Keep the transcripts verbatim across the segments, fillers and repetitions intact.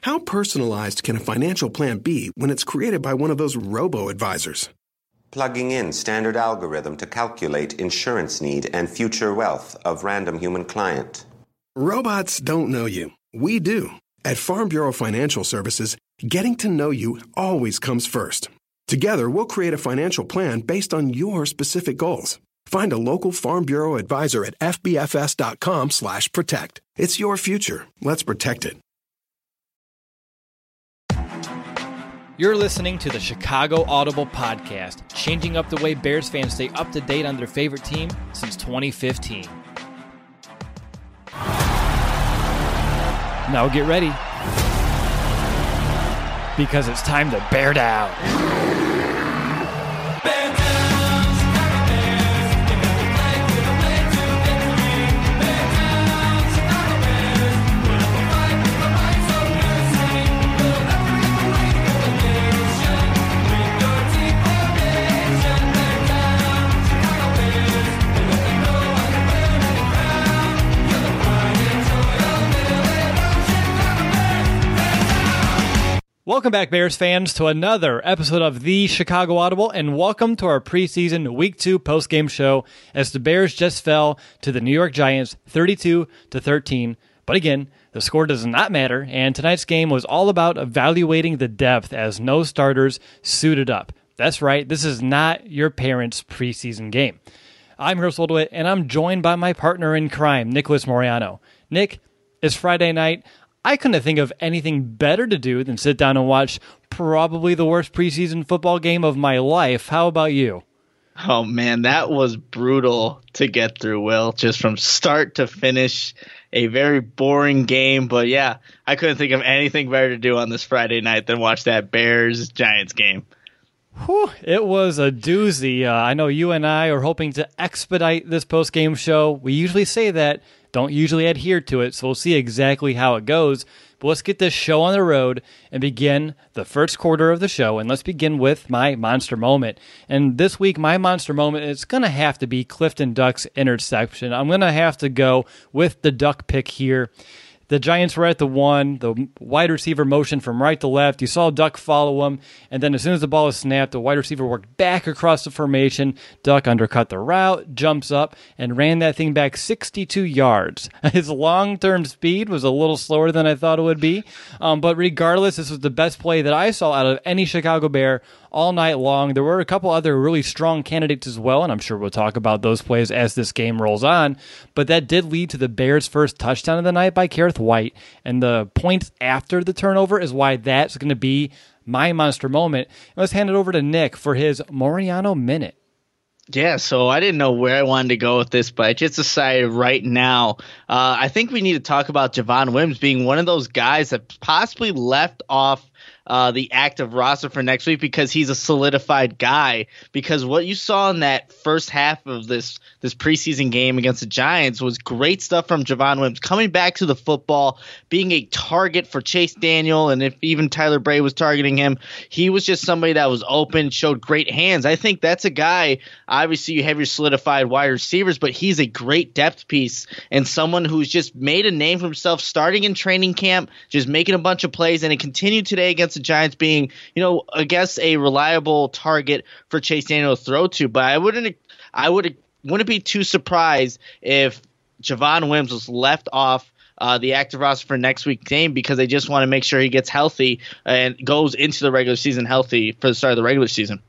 How personalized can a financial plan be when it's created by one of those robo-advisors? Plugging in standard algorithm to calculate insurance need and future wealth of random human client. Robots don't know you. We do. At Farm Bureau Financial Services, getting to know you always comes first. Together, we'll create a financial plan based on your specific goals. Find a local Farm Bureau advisor at fbfs.com slash protect. It's your future. Let's protect it. You're listening to the Chicago Audible Podcast, changing up the way Bears fans stay up to date on their favorite team since twenty fifteen. Now get ready, because it's time to bear down. Welcome back, Bears fans, to another episode of the Chicago Audible, and welcome to our preseason Week two postgame show as the Bears just fell to the New York Giants thirty-two to thirteen. But again, the score does not matter, and tonight's game was all about evaluating the depth as no starters suited up. That's right, this is not your parents' preseason game. I'm Chris Oldwit, and I'm joined by my partner in crime, Nicholas Moriano. Nick, it's Friday night. I couldn't think of anything better to do than sit down and watch probably the worst preseason football game of my life. How about you? Oh, man, that was brutal to get through, Will, just from start to finish. A very boring game. But, yeah, I couldn't think of anything better to do on this Friday night than watch that Bears-Giants game. Whew, it was a doozy. Uh, I know you and I are hoping to expedite this post-game show. We usually say that. Don't usually adhere to it, so we'll see exactly how it goes. But let's get this show on the road and begin the first quarter of the show. And let's begin with my monster moment. And this week, my monster moment is going to have to be Clifton Duck's interception. I'm going to have to go with the Duck pick here. The Giants were at the one, the wide receiver motion from right to left. You saw Duck follow him, and then as soon as the ball was snapped, the wide receiver worked back across the formation. Duck undercut the route, jumps up, and ran that thing back sixty-two yards. His long-term speed was a little slower than I thought it would be, um, but regardless, this was the best play that I saw out of any Chicago Bear all night long. There were a couple other really strong candidates as well, and I'm sure we'll talk about those plays as this game rolls on, but that did lead to the Bears' first touchdown of the night by Kareth White, and the points after the turnover is why that's going to be my monster moment. And let's hand it over to Nick for his Moriano Minute. Yeah, so I didn't know where I wanted to go with this, but I just decided right now. Uh, I think we need to talk about Javon Wims being one of those guys that possibly left off Uh, the active roster for next week because he's a solidified guy. Because what you saw in that first half of this this preseason game against the Giants was great stuff from Javon Wims coming back to the football, being a target for Chase Daniel, and if even Tyler Bray was targeting him, he was just somebody that was open, showed great hands. I think that's a guy. Obviously, you have your solidified wide receivers, but he's a great depth piece and someone who's just made a name for himself, starting in training camp, just making a bunch of plays, and it continued today against the Giants being, you know, I guess a reliable target for Chase Daniel to throw to. But I wouldn't, I would, wouldn't be too surprised if Javon Wims was left off uh, the active roster for next week's game because they just want to make sure he gets healthy and goes into the regular season healthy for the start of the regular season.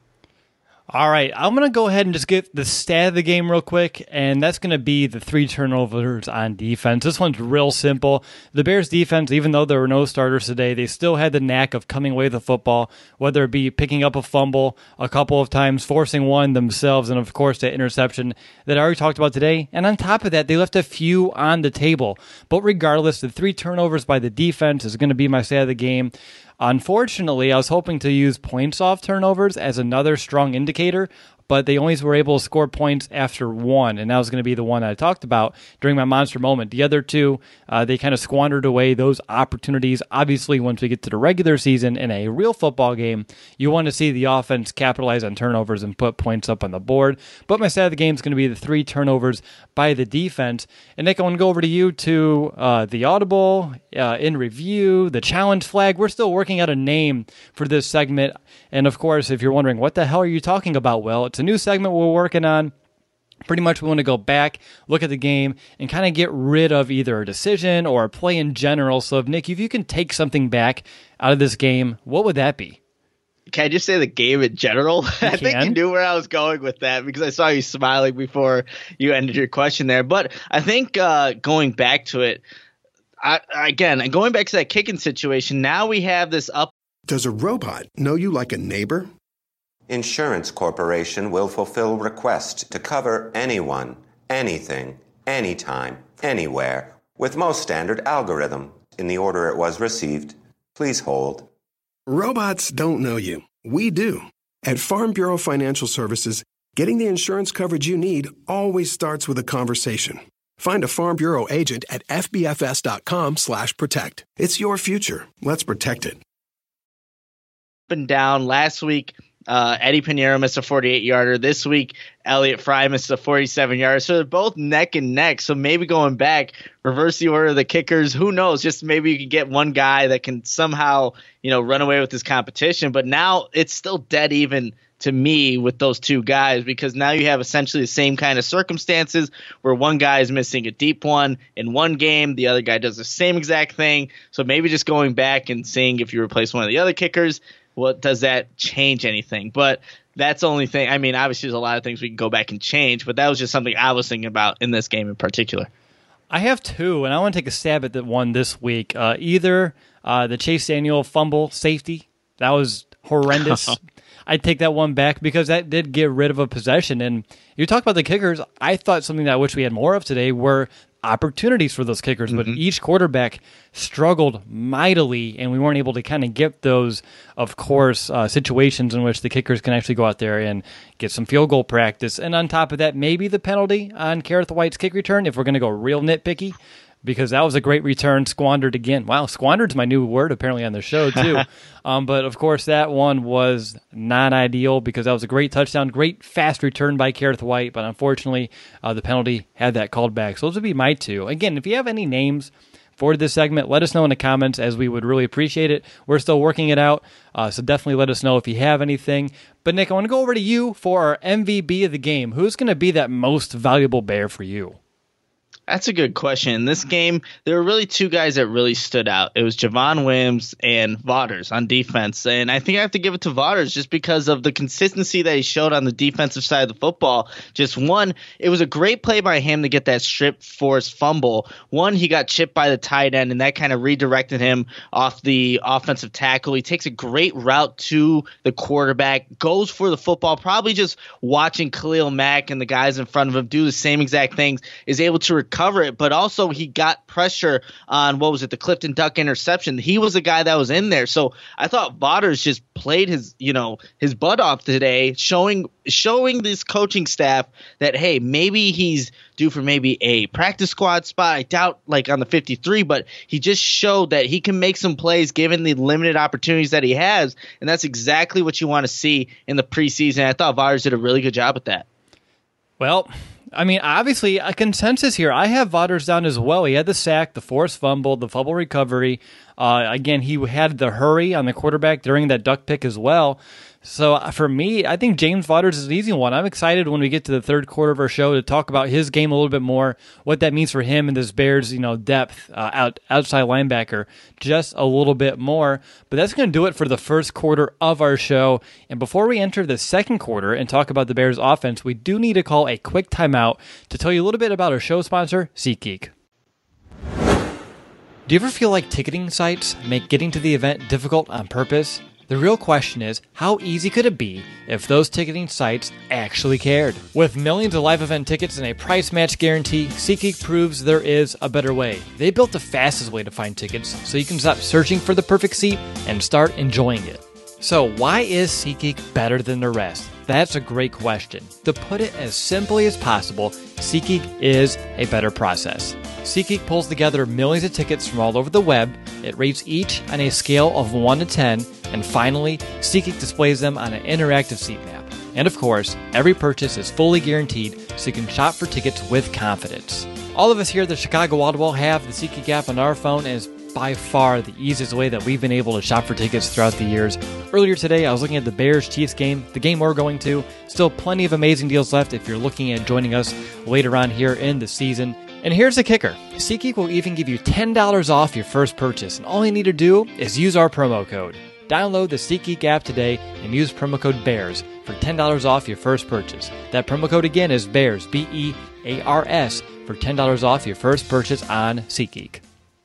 All right, I'm going to go ahead and just get the stat of the game real quick, and that's going to be the three turnovers on defense. This one's real simple. The Bears' defense, even though there were no starters today, they still had the knack of coming away with the football, whether it be picking up a fumble a couple of times, forcing one themselves, and of course that interception that I already talked about today. And on top of that, they left a few on the table. But regardless, the three turnovers by the defense is going to be my stat of the game. Unfortunately, I was hoping to use points off turnovers as another strong indicator, but they always were able to score points after one, and that was going to be the one I talked about during my monster moment. The other two, uh, they kind of squandered away those opportunities. Obviously, once we get to the regular season in a real football game, you want to see the offense capitalize on turnovers and put points up on the board. But my stat of the game is going to be the three turnovers by the defense. And Nick, I want to go over to you to uh, the audible, uh, in review, the challenge flag. We're still working out a name for this segment. And of course, if you're wondering, what the hell are you talking about? Well, it's a new segment we're working on. Pretty much we want to go back, look at the game, and kind of get rid of either a decision or a play in general. So if Nick, if you can take something back out of this game, what would that be? Can I just say the game in general? I think you knew where I was going with that because I saw you smiling before you ended your question there. But I think uh, going back to it, I, again, going back to that kicking situation, now we have this up. Does a robot know you like a neighbor? Insurance Corporation will fulfill request to cover anyone, anything, anytime, anywhere, with most standard algorithm in the order it was received. Please hold. Robots don't know you. We do. At Farm Bureau Financial Services, getting the insurance coverage you need always starts with a conversation. Find a Farm Bureau agent at fbfs.com slash protect. It's your future. Let's protect it. Up and down. Last week, uh, Eddie Pinheiro missed a forty-eight yarder. This week, Elliott Fry missed a forty-seven yarder. So they're both neck and neck. So maybe going back, reverse the order of the kickers. Who knows? Just maybe you can get one guy that can somehow, you know, run away with this competition. But now it's still dead even to me with those two guys, because now you have essentially the same kind of circumstances where one guy is missing a deep one in one game, the other guy does the same exact thing. So maybe just going back and seeing if you replace one of the other kickers, what does that change anything? But that's the only thing. I mean, obviously there's a lot of things we can go back and change, but that was just something I was thinking about in this game in particular. I have two, and I want to take a stab at the one this week. Uh, either uh, the Chase Daniel fumble safety. That was horrendous. I'd take that one back because that did get rid of a possession. And you talk about the kickers, I thought something that I wish we had more of today were opportunities for those kickers, but mm-hmm. each quarterback struggled mightily, and we weren't able to kind of get those, of course, uh, situations in which the kickers can actually go out there and get some field goal practice. And on top of that, maybe the penalty on Kareth White's kick return, if we're going to go real nitpicky, because that was a great return, squandered again. Wow, squandered's my new word apparently on the show too. um, but of course that one was not ideal because that was a great touchdown, great fast return by Kareth White, but unfortunately uh, the penalty had that called back. So those would be my two. Again, if you have any names for this segment, let us know in the comments, as we would really appreciate it. We're still working it out, uh, so definitely let us know if you have anything. But Nick, I want to go over to you for our M V P of the game. Who's going to be that most valuable Bear for you? That's a good question. In this game, there were really two guys that really stood out. It was Javon Wims and Vaughters on defense. And I think I have to give it to Vaughters just because of the consistency that he showed on the defensive side of the football. Just one, it was a great play by him to get that strip forced fumble. One, he got chipped by the tight end, and that kind of redirected him off the offensive tackle. He takes a great route to the quarterback, goes for the football, probably just watching Khalil Mack and the guys in front of him do the same exact things, is able to recover cover it, but also he got pressure on, what was it, the Clifton Duck interception. He was the guy that was in there. So I thought Vaughters just played his, you know, his butt off today, showing showing this coaching staff that, hey, maybe he's due for maybe a practice squad spot. I doubt like on the fifty-three, but he just showed that he can make some plays given the limited opportunities that he has, and that's exactly what you want to see in the preseason. I thought Vaughters did a really good job at that. Well, I mean, obviously, a consensus here. I have Vaughters down as well. He had the sack, the forced fumble, the fumble recovery. Uh, again, he had the hurry on the quarterback during that duck pick as well. So for me, I think James Vaughters is an easy one. I'm excited when we get to the third quarter of our show to talk about his game a little bit more, what that means for him and this Bears, you know, depth uh, out outside linebacker just a little bit more. But that's going to do it for the first quarter of our show. And before we enter the second quarter and talk about the Bears offense, we do need to call a quick timeout to tell you a little bit about our show sponsor, SeatGeek. Do you ever feel like ticketing sites make getting to the event difficult on purpose? The real question is, how easy could it be if those ticketing sites actually cared? With millions of live event tickets and a price match guarantee, SeatGeek proves there is a better way. They built the fastest way to find tickets so you can stop searching for the perfect seat and start enjoying it. So why is SeatGeek better than the rest? That's a great question. To put it as simply as possible, SeatGeek is a better process. SeatGeek pulls together millions of tickets from all over the web. It rates each on a scale of one to ten, and finally, SeatGeek displays them on an interactive seat map. And of course, every purchase is fully guaranteed, so you can shop for tickets with confidence. All of us here at the Chicago Audible have the SeatGeek app on our phone, and it's by far the easiest way that we've been able to shop for tickets throughout the years. Earlier today, I was looking at the Bears-Chiefs game, the game we're going to. Still plenty of amazing deals left if you're looking at joining us later on here in the season. And here's the kicker. SeatGeek will even give you ten dollars off your first purchase, and all you need to do is use our promo code. Download the SeatGeek app today and use promo code BEARS for ten dollars off your first purchase. That promo code again is BEARS, B E A R S, for ten dollars off your first purchase on SeatGeek.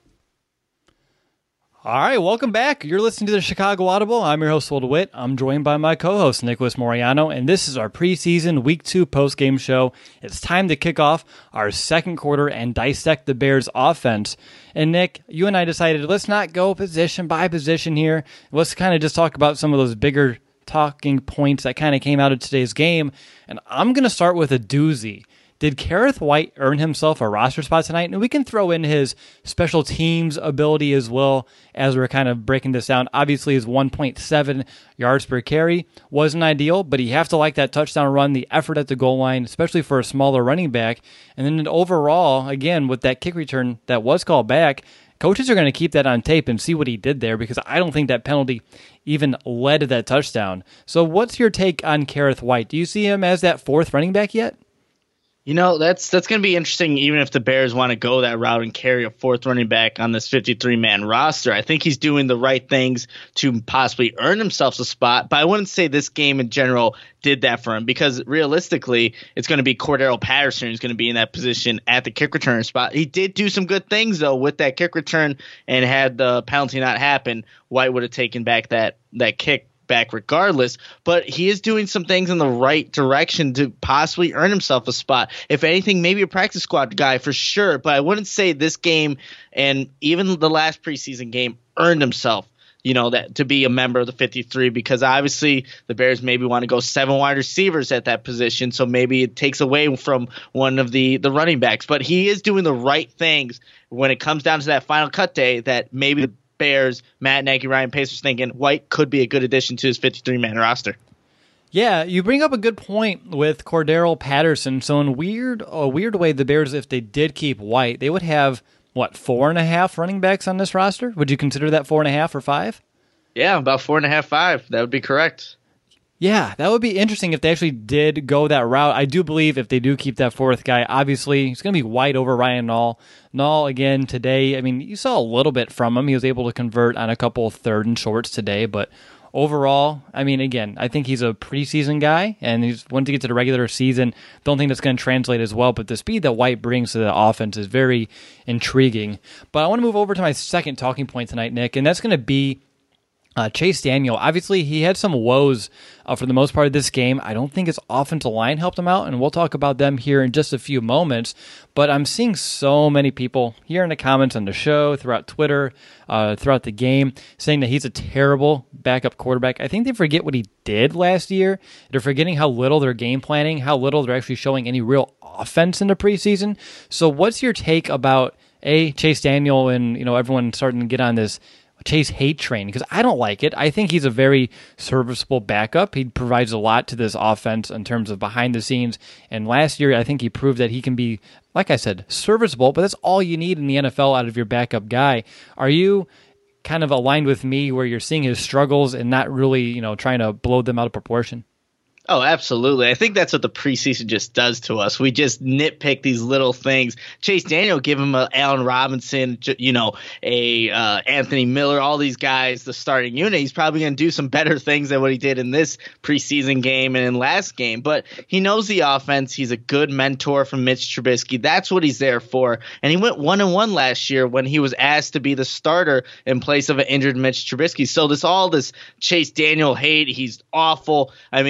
All right, welcome back. You're listening to the Chicago Audible. I'm your host, Will DeWitt. I'm joined by my co-host, Nicholas Moriano, and this is our preseason Week two postgame show. It's time to kick off our second quarter and dissect the Bears' offense. And Nick, you and I decided let's not go position by position here. Let's kind of just talk about some of those bigger talking points that kind of came out of today's game. And I'm going to start with a doozy. Did Kerrith Whyte earn himself a roster spot tonight? And we can throw in his special teams ability as well as we're kind of breaking this down. Obviously, his one point seven yards per carry wasn't ideal, but you have to like that touchdown run, the effort at the goal line, especially for a smaller running back. And then overall, again, with that kick return that was called back, coaches are going to keep that on tape and see what he did there because I don't think that penalty even led to that touchdown. So what's your take on Kerrith Whyte? Do you see him as that fourth running back yet? You know, that's that's going to be interesting even if the Bears want to go that route and carry a fourth running back on this fifty-three man roster. I think he's doing the right things to possibly earn himself a spot, but I wouldn't say this game in general did that for him because realistically, it's going to be Cordero Patterson who's going to be in that position at the kick return spot. He did do some good things, though, with that kick return, and had the penalty not happen, White would have taken back that that kick back regardless, but he is doing some things in the right direction to possibly earn himself a spot. If anything, maybe a practice squad guy for sure, but I wouldn't say this game and even the last preseason game earned himself, you know, that to be a member of the fifty-three because obviously the Bears maybe want to go seven wide receivers at that position, so maybe it takes away from one of the, the running backs, but he is doing the right things when it comes down to that final cut day that maybe the Bears, Matt Nagy, Ryan Pace was thinking White could be a good addition to his fifty-three man roster. Yeah, you bring up a good point with Cordero Patterson. So in weird, a weird way, the Bears, if they did keep White, they would have, what, four and a half running backs on this roster? Would you consider that four and a half or five? Yeah, about four and a half, five. That would be correct. Yeah, that would be interesting if they actually did go that route. I do believe if they do keep that fourth guy, obviously, it's going to be White over Ryan Nall. Nall, again, today, I mean, you saw a little bit from him. He was able to convert on a couple of third and shorts today, but overall, I mean, again, I think he's a preseason guy, and he's once he gets to the regular season, don't think that's going to translate as well, but the speed that White brings to the offense is very intriguing. But I want to move over to my second talking point tonight, Nick, and that's going to be Uh, Chase Daniel. Obviously, he had some woes uh, for the most part of this game. I don't think his offensive line helped him out, and we'll talk about them here in just a few moments. But I'm seeing so many people here in the comments on the show, throughout Twitter, uh, throughout the game, saying that he's a terrible backup quarterback. I think they forget what he did last year. They're forgetting how little they're game planning, how little they're actually showing any real offense in the preseason. So what's your take about, A, Chase Daniel and, you know, everyone starting to get on this Chase hate train? Because I don't like it. I think he's a very serviceable backup. He provides a lot to this offense in terms of behind the scenes. And last year, I think he proved that he can be, like I said, serviceable, but that's all you need in the N F L out of your backup guy. Are you kind of aligned with me where you're seeing his struggles and not really, you know, trying to blow them out of proportion? Oh, absolutely. I think that's what the preseason just does to us. We just nitpick these little things. Chase Daniel, give him a Allen Robinson, you know, a uh, Anthony Miller, all these guys, the starting unit. He's probably going to do some better things than what he did in this preseason game and in last game. But he knows the offense. He's a good mentor from Mitch Trubisky. That's what he's there for. And he went one and one last year when he was asked to be the starter in place of an injured Mitch Trubisky. So this all this Chase Daniel hate, he's awful. I mean,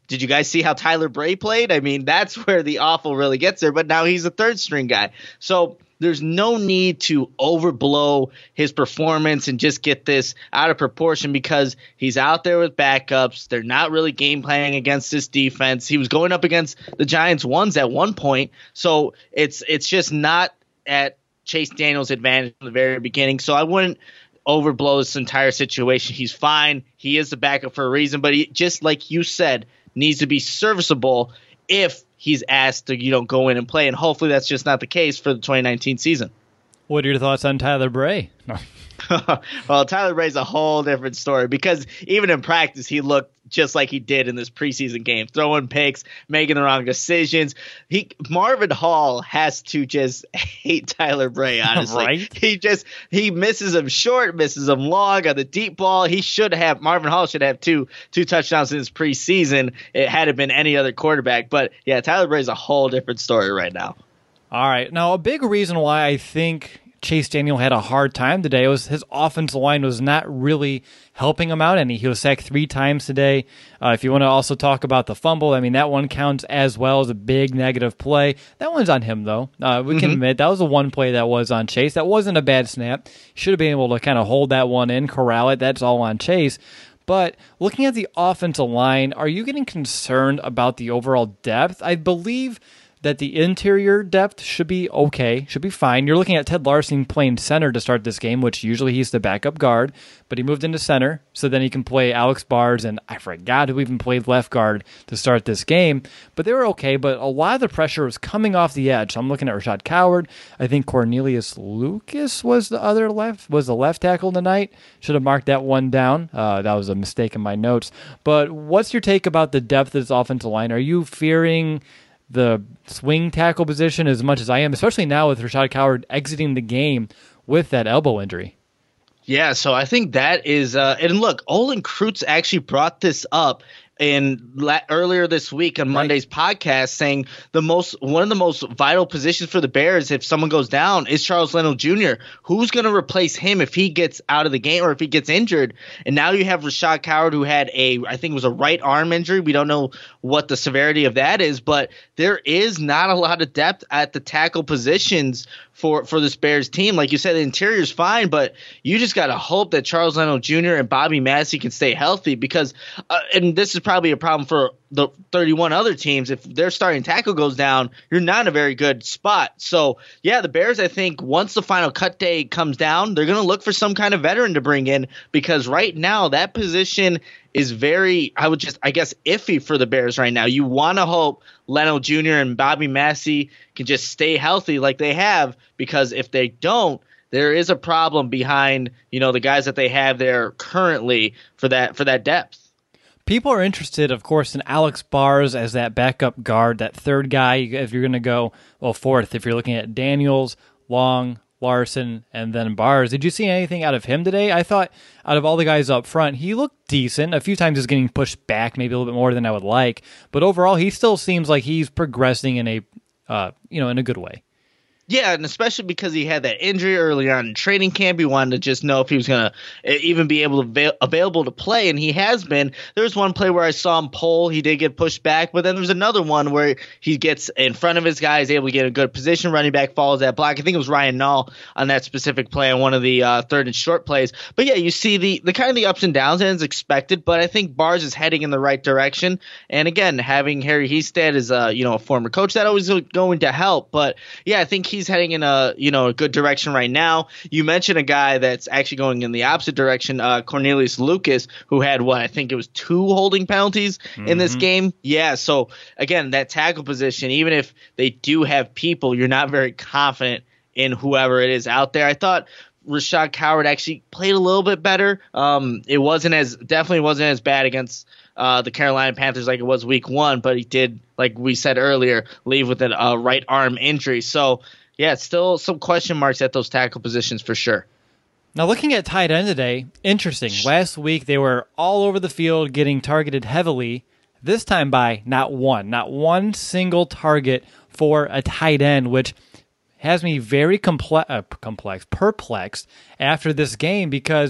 did you guys see how Tyler Bray played? I mean, that's where the awful really gets there, but now he's a third string guy. So there's no need to overblow his performance and just get this out of proportion because he's out there with backups. They're not really game planning against this defense. He was going up against the Giants ones at one point. So it's it's just not at Chase Daniel's advantage from the very beginning. So I wouldn't overblow this entire situation. He's fine. He is the backup for a reason, but he, just like you said, needs to be serviceable if he's asked to, you know, go in and play, and hopefully that's just not the case for the twenty nineteen season. What are your thoughts on Tyler Bray? No. Well, Tyler Bray's a whole different story because even in practice, he looked just like he did in this preseason game, throwing picks, making the wrong decisions. He Marvin Hall has to just hate Tyler Bray, honestly. Right? He just he misses him short, misses him long on the deep ball. He should have Marvin Hall should have two two touchdowns in his preseason. It had it been any other quarterback. But yeah, Tyler Bray's a whole different story right now. All right. Now, a big reason why I think Chase Daniel had a hard time today was his offensive line was not really helping him out any. He was sacked three times today. Uh, if you want to also talk about the fumble, I mean, that one counts as well as a big negative play. That one's on him, though. Uh, we mm-hmm. can admit that was the one play that was on Chase. That wasn't a bad snap. Should have been able to kind of hold that one in, corral it. That's all on Chase. But looking at the offensive line, are you getting concerned about the overall depth? I believe that the interior depth should be okay, should be fine. You're looking at Ted Larson playing center to start this game, which usually he's the backup guard, but he moved into center, so then he can play Alex Bars, and I forgot who even played left guard to start this game. But they were okay, but a lot of the pressure was coming off the edge. So I'm looking at Rashad Coward. I think Cornelius Lucas was the other left, was the left tackle tonight. Should have marked that one down. Uh, that was a mistake in my notes. But what's your take about the depth of this offensive line? Are you fearing the swing tackle position as much as I am, especially now with Rashad Coward exiting the game with that elbow injury? Yeah, so I think that is uh, – and look, Olin Kreutz actually brought this up in la- earlier this week on Monday's right. podcast, saying the most one of the most vital positions for the Bears if someone goes down is Charles Leno Junior Who's going to replace him if he gets out of the game or if he gets injured? And now you have Rashad Coward, who had a I think it was a right arm injury. We don't know what the severity of that is, but there is not a lot of depth at the tackle positions for for this Bears team. Like you said, the interior is fine, but you just got to hope that Charles Leno Junior and Bobby Massey can stay healthy because uh, – and this is probably a problem for the thirty-one other teams. If their starting tackle goes down, you're not in a very good spot. So, yeah, the Bears, I think, once the final cut day comes down, they're going to look for some kind of veteran to bring in because right now that position is very, I would just, I guess, iffy for the Bears right now. You want to hope Leno Junior and Bobby Massey can just stay healthy like they have because if they don't, there is a problem behind, you know, the guys that they have there currently for that for that depth. People are interested, of course, in Alex Bars as that backup guard, that third guy. If you're going to go, well, fourth, if you're looking at Daniels, Long, Larson, and then Bars. Did you see anything out of him today? I thought out of all the guys up front, he looked decent. A few times he's getting pushed back, maybe a little bit more than I would like. But overall, he still seems like he's progressing in a, uh, you know, in a good way. Yeah, and especially because he had that injury early on in training camp, he wanted to just know if he was going to even be able to avail- available to play, and he has been. There was one play where I saw him pull, he did get pushed back, but then there was another one where he gets in front of his guy, is able to get a good position, running back follows that block. I think it was Ryan Nall on that specific play on one of the uh, third and short plays. But yeah, you see the, the kind of the ups and downs, and it's expected, but I think Bars is heading in the right direction. And again, having Harry Hiestand as a, you know, a former coach, that always going to help. But yeah, I think he's heading in a, you know, a good direction right now. You mentioned a guy that's actually going in the opposite direction, uh, Cornelius Lucas, who had what I think it was two holding penalties mm-hmm. in this game. Yeah, so again, that tackle position, even if they do have people, you're not very confident in whoever it is out there. I thought Rashad Coward actually played a little bit better. Um, it wasn't as definitely wasn't as bad against uh, the Carolina Panthers like it was week one, but he did, like we said earlier, leave with a uh, right arm injury. So yeah, still some question marks at those tackle positions for sure. Now, looking at tight end today, interesting. Last week, they were all over the field getting targeted heavily. This time by not one, not one single target for a tight end, which has me very comple- uh, complex, perplexed after this game because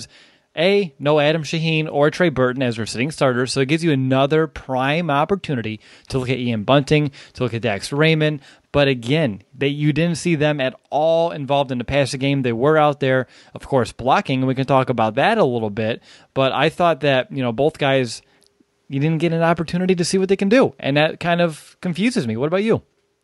A, no Adam Shaheen or Trey Burton as their sitting starters, so it gives you another prime opportunity to look at Ian Bunting, to look at Dax Raymond. But again, they, you didn't see them at all involved in the passing game. They were out there, of course, blocking, and we can talk about that a little bit. But I thought that, you know, both guys, you didn't get an opportunity to see what they can do, and that kind of confuses me. What about you?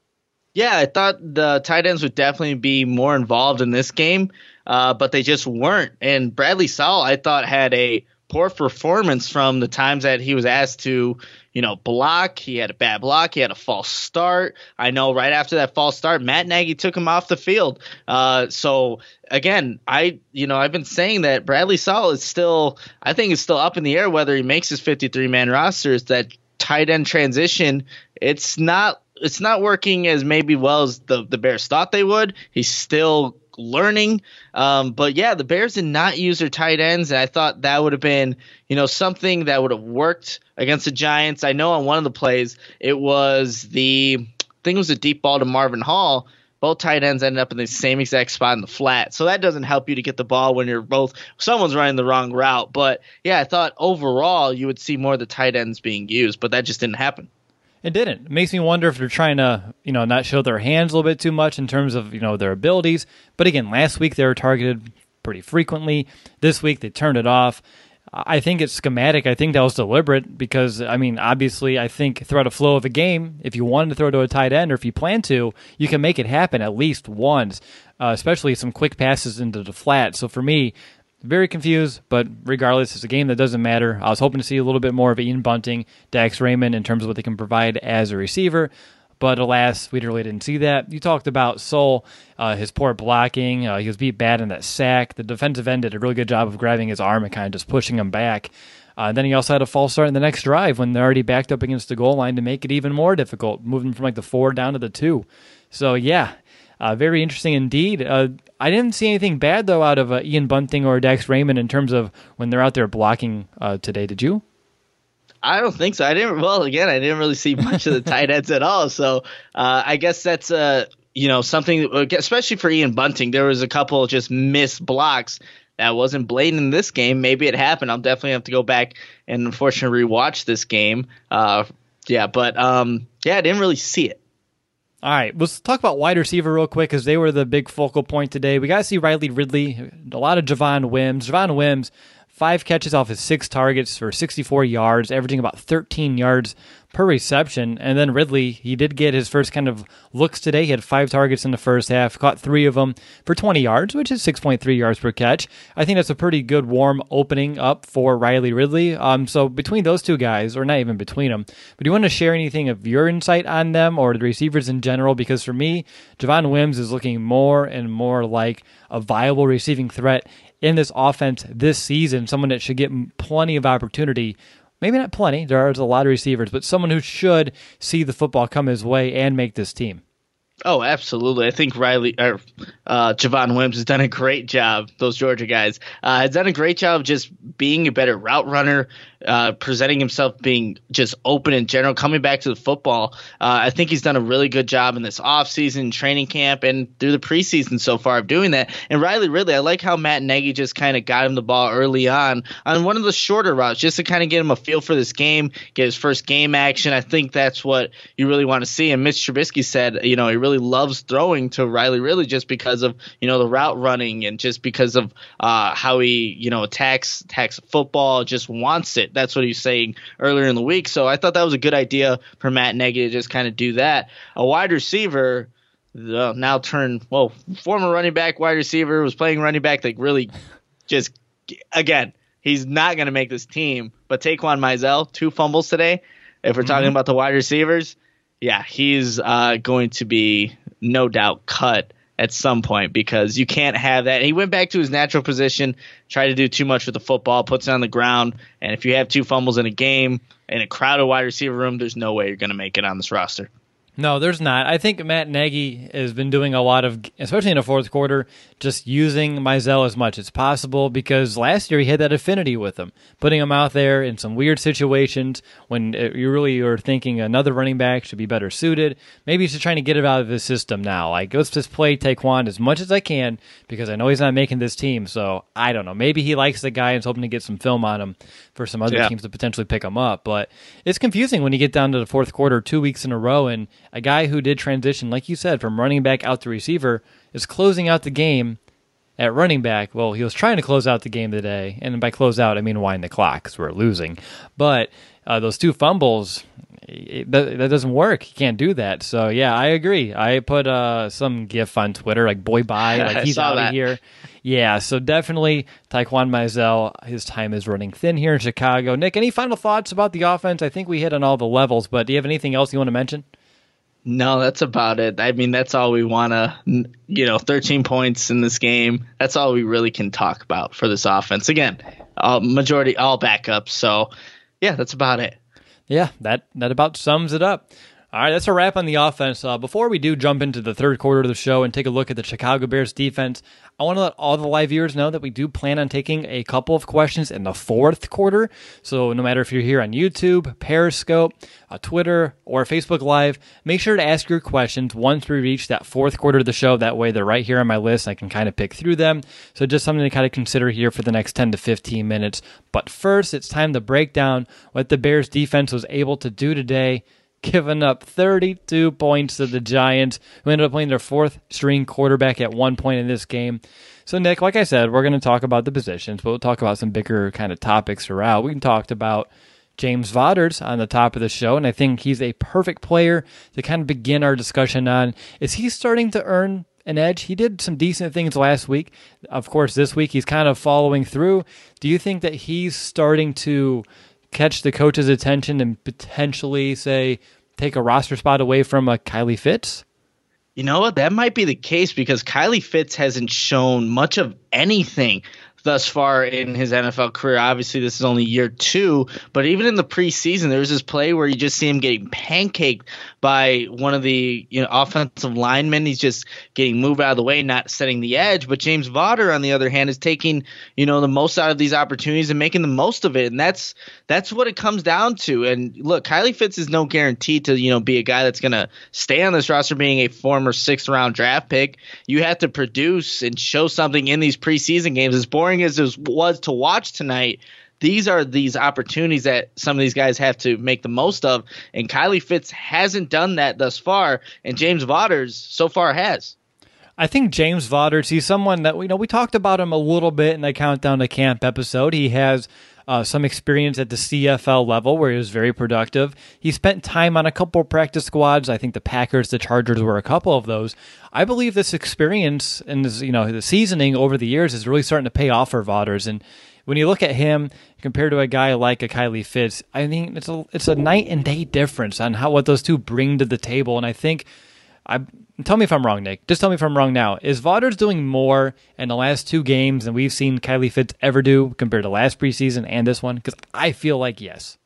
Yeah, I thought the tight ends would definitely be more involved in this game, uh, but they just weren't. And Bradley Sowell, I thought, had a poor performance from the times that he was asked to, you know, block. He had a bad block. He had a false start. I know right after that false start, Matt Nagy took him off the field. Uh, so again, I, you know, I've been saying that Bradley Sowell is still, I think is still up in the air whether he makes his fifty-three man roster. Is that tight end transition? It's not. It's not working as maybe well as the, the Bears thought they would. He's still learning. Um, but, yeah, the Bears did not use their tight ends, and I thought that would have been, you know, something that would have worked against the Giants. I know on one of the plays it was the – I think it was a deep ball to Marvin Hall. Both tight ends ended up in the same exact spot in the flat. So that doesn't help you to get the ball when you're both – someone's running the wrong route. But, yeah, I thought overall you would see more of the tight ends being used, but that just didn't happen. It didn't. It makes me wonder if they're trying to, you know, not show their hands a little bit too much in terms of, you know, their abilities. But again, last week they were targeted pretty frequently. This week they turned it off. I think it's schematic. I think that was deliberate because, I mean, obviously I think throughout a flow of a game, if you wanted to throw to a tight end or if you plan to, you can make it happen at least once, uh, especially some quick passes into the flat. So for me, very confused, but regardless, it's a game that doesn't matter. I was hoping to see a little bit more of Ian Bunting, Dax Raymond in terms of what they can provide as a receiver, but alas, we really didn't see that. You talked about Soul, uh, his poor blocking. Uh, he was beat bad in that sack. The defensive end did a really good job of grabbing his arm and kind of just pushing him back. Uh, then he also had a false start in the next drive when they're already backed up against the goal line to make it even more difficult, moving from like the four down to the two. So yeah, uh, very interesting indeed. Uh, I didn't see anything bad, though, out of uh, Ian Bunting or Dax Raymond in terms of when they're out there blocking uh, today. Did you? I don't think so. I didn't. Well, again, I didn't really see much of the tight ends at all. So uh, I guess that's uh, you know something, especially for Ian Bunting. There was a couple just missed blocks that wasn't blatant in this game. Maybe it happened. I'll definitely have to go back and unfortunately rewatch this game. Uh, yeah, but um, yeah, I didn't really see it. All right, let's talk about wide receiver real quick because they were the big focal point today. We got to see Riley Ridley, a lot of Javon Wims. Javon Wims, five catches off his six targets for sixty-four yards, averaging about thirteen yards per reception. And then Ridley, he did get his first kind of looks today. He had five targets in the first half, caught three of them for twenty yards, which is six point three yards per catch. I think that's a pretty good warm opening up for Riley Ridley. Um, so between those two guys, or not even between them, but do you want to share anything of your insight on them or the receivers in general? Because for me, Javon Wims is looking more and more like a viable receiving threat in this offense this season, someone that should get plenty of opportunity. Maybe not plenty, there's a lot of receivers, but someone who should see the football come his way and make this team. Oh, absolutely. I think Riley or uh, Javon Wims has done a great job. Those Georgia guys uh, has done a great job of just being a better route runner, uh, presenting himself being just open in general, coming back to the football. Uh, I think he's done a really good job in this offseason, training camp, and through the preseason so far of doing that. And Riley Ridley, I like how Matt Nagy just kind of got him the ball early on on one of the shorter routes just to kind of get him a feel for this game, get his first game action. I think that's what you really want to see. And Mitch Trubisky said, you know, he really loves throwing to Riley Ridley just because of, you know, the route running and just because of uh, how he, you know, attacks, attacks football, just wants it. That's what he's saying earlier in the week. So I thought that was a good idea for Matt Nagy to just kind of do that. A wide receiver uh, now turned, well, former running back, wide receiver, was playing running back, like really just, again, he's not going to make this team. But Taquan Mizell, two fumbles today. If we're mm-hmm. talking about the wide receivers, yeah, he's uh, going to be no doubt cut at some point because you can't have that. He went back to his natural position, tried to do too much with the football, puts it on the ground, and if you have two fumbles in a game in a crowded wide receiver room, there's no way you're going to make it on this roster. No, there's not. I think Matt Nagy has been doing a lot of, especially in the fourth quarter, just using Mizell as much as possible because last year he had that affinity with him, putting him out there in some weird situations when you really are thinking another running back should be better suited. Maybe he's just trying to get it out of his system now. Like, let's just play Taekwon as much as I can because I know he's not making this team. So I don't know. Maybe he likes the guy and is hoping to get some film on him for some other yeah. teams to potentially pick him up. But it's confusing when you get down to the fourth quarter two weeks in a row and a guy who did transition, like you said, from running back out to receiver is closing out the game at running back. Well, he was trying to close out the game today, and by close out, I mean wind the clock because we're losing. But uh, those two fumbles, it, that, that doesn't work. He can't do that. So, yeah, I agree. I put uh, some gif on Twitter, like, boy, bye, like he's out of here. Yeah, so definitely Taekwon Mizell, his time is running thin here in Chicago. Nick, any final thoughts about the offense? I think we hit on all the levels, but do you have anything else you want to mention? No, that's about it. I mean, that's all we want to, you know, thirteen points in this game. That's all we really can talk about for this offense. Again, uh, majority all backups. So, yeah, that's about it. Yeah, that, that about sums it up. All right, that's a wrap on the offense. Uh, before we do jump into the third quarter of the show and take a look at the Chicago Bears defense, I want to let all the live viewers know that we do plan on taking a couple of questions in the fourth quarter. So no matter if you're here on YouTube, Periscope, uh, Twitter, or Facebook Live, make sure to ask your questions once we reach that fourth quarter of the show. That way they're right here on my list. I can kind of pick through them. So just something to kind of consider here for the next ten to fifteen minutes. But first, it's time to break down what the Bears defense was able to do today, giving up thirty-two points to the Giants, who ended up playing their fourth string quarterback at one point in this game. So, Nick, like I said, we're going to talk about the positions, but we'll talk about some bigger kind of topics throughout. We talked about James Vaughters on the top of the show, and I think he's a perfect player to kind of begin our discussion on. Is he starting to earn an edge? He did some decent things last week. Of course, this week he's kind of following through. Do you think that he's starting to catch the coach's attention and potentially, say, take a roster spot away from a Kylie Fitz? You know what? That might be the case because Kylie Fitz hasn't shown much of anything thus far in his N F L career. Obviously, this is only year two, but even in the preseason, there was this play where you just see him getting pancaked by one of the you know offensive linemen. He's just getting moved out of the way, not setting the edge. But James Vaughter, on the other hand, is taking you know the most out of these opportunities and making the most of it, and that's that's what it comes down to. And look, Kylie Fitz is no guarantee to you know be a guy that's going to stay on this roster, being a former sixth round draft pick. You have to produce and show something in these preseason games. As boring as it was to watch tonight, these are these opportunities that some of these guys have to make the most of, and Kylie Fitz hasn't done that thus far, and James Vaughters so far has. I think James Vaughters, he's someone that we you know we talked about him a little bit in the Countdown to Camp episode. He has Uh, some experience at the C F L level where he was very productive. He spent time on a couple of practice squads. I think the Packers, the Chargers were a couple of those. I believe this experience and this, you know, the seasoning over the years is really starting to pay off for Vaughters. And when you look at him compared to a guy like a Kylie Fitz, I mean, it's a it's a night and day difference on how what those two bring to the table. And I think I. Tell me if I'm wrong, Nick. Just tell me if I'm wrong now. Is Vaughters doing more in the last two games than we've seen Kylie Fitz ever do compared to last preseason and this one? Because I feel like yes.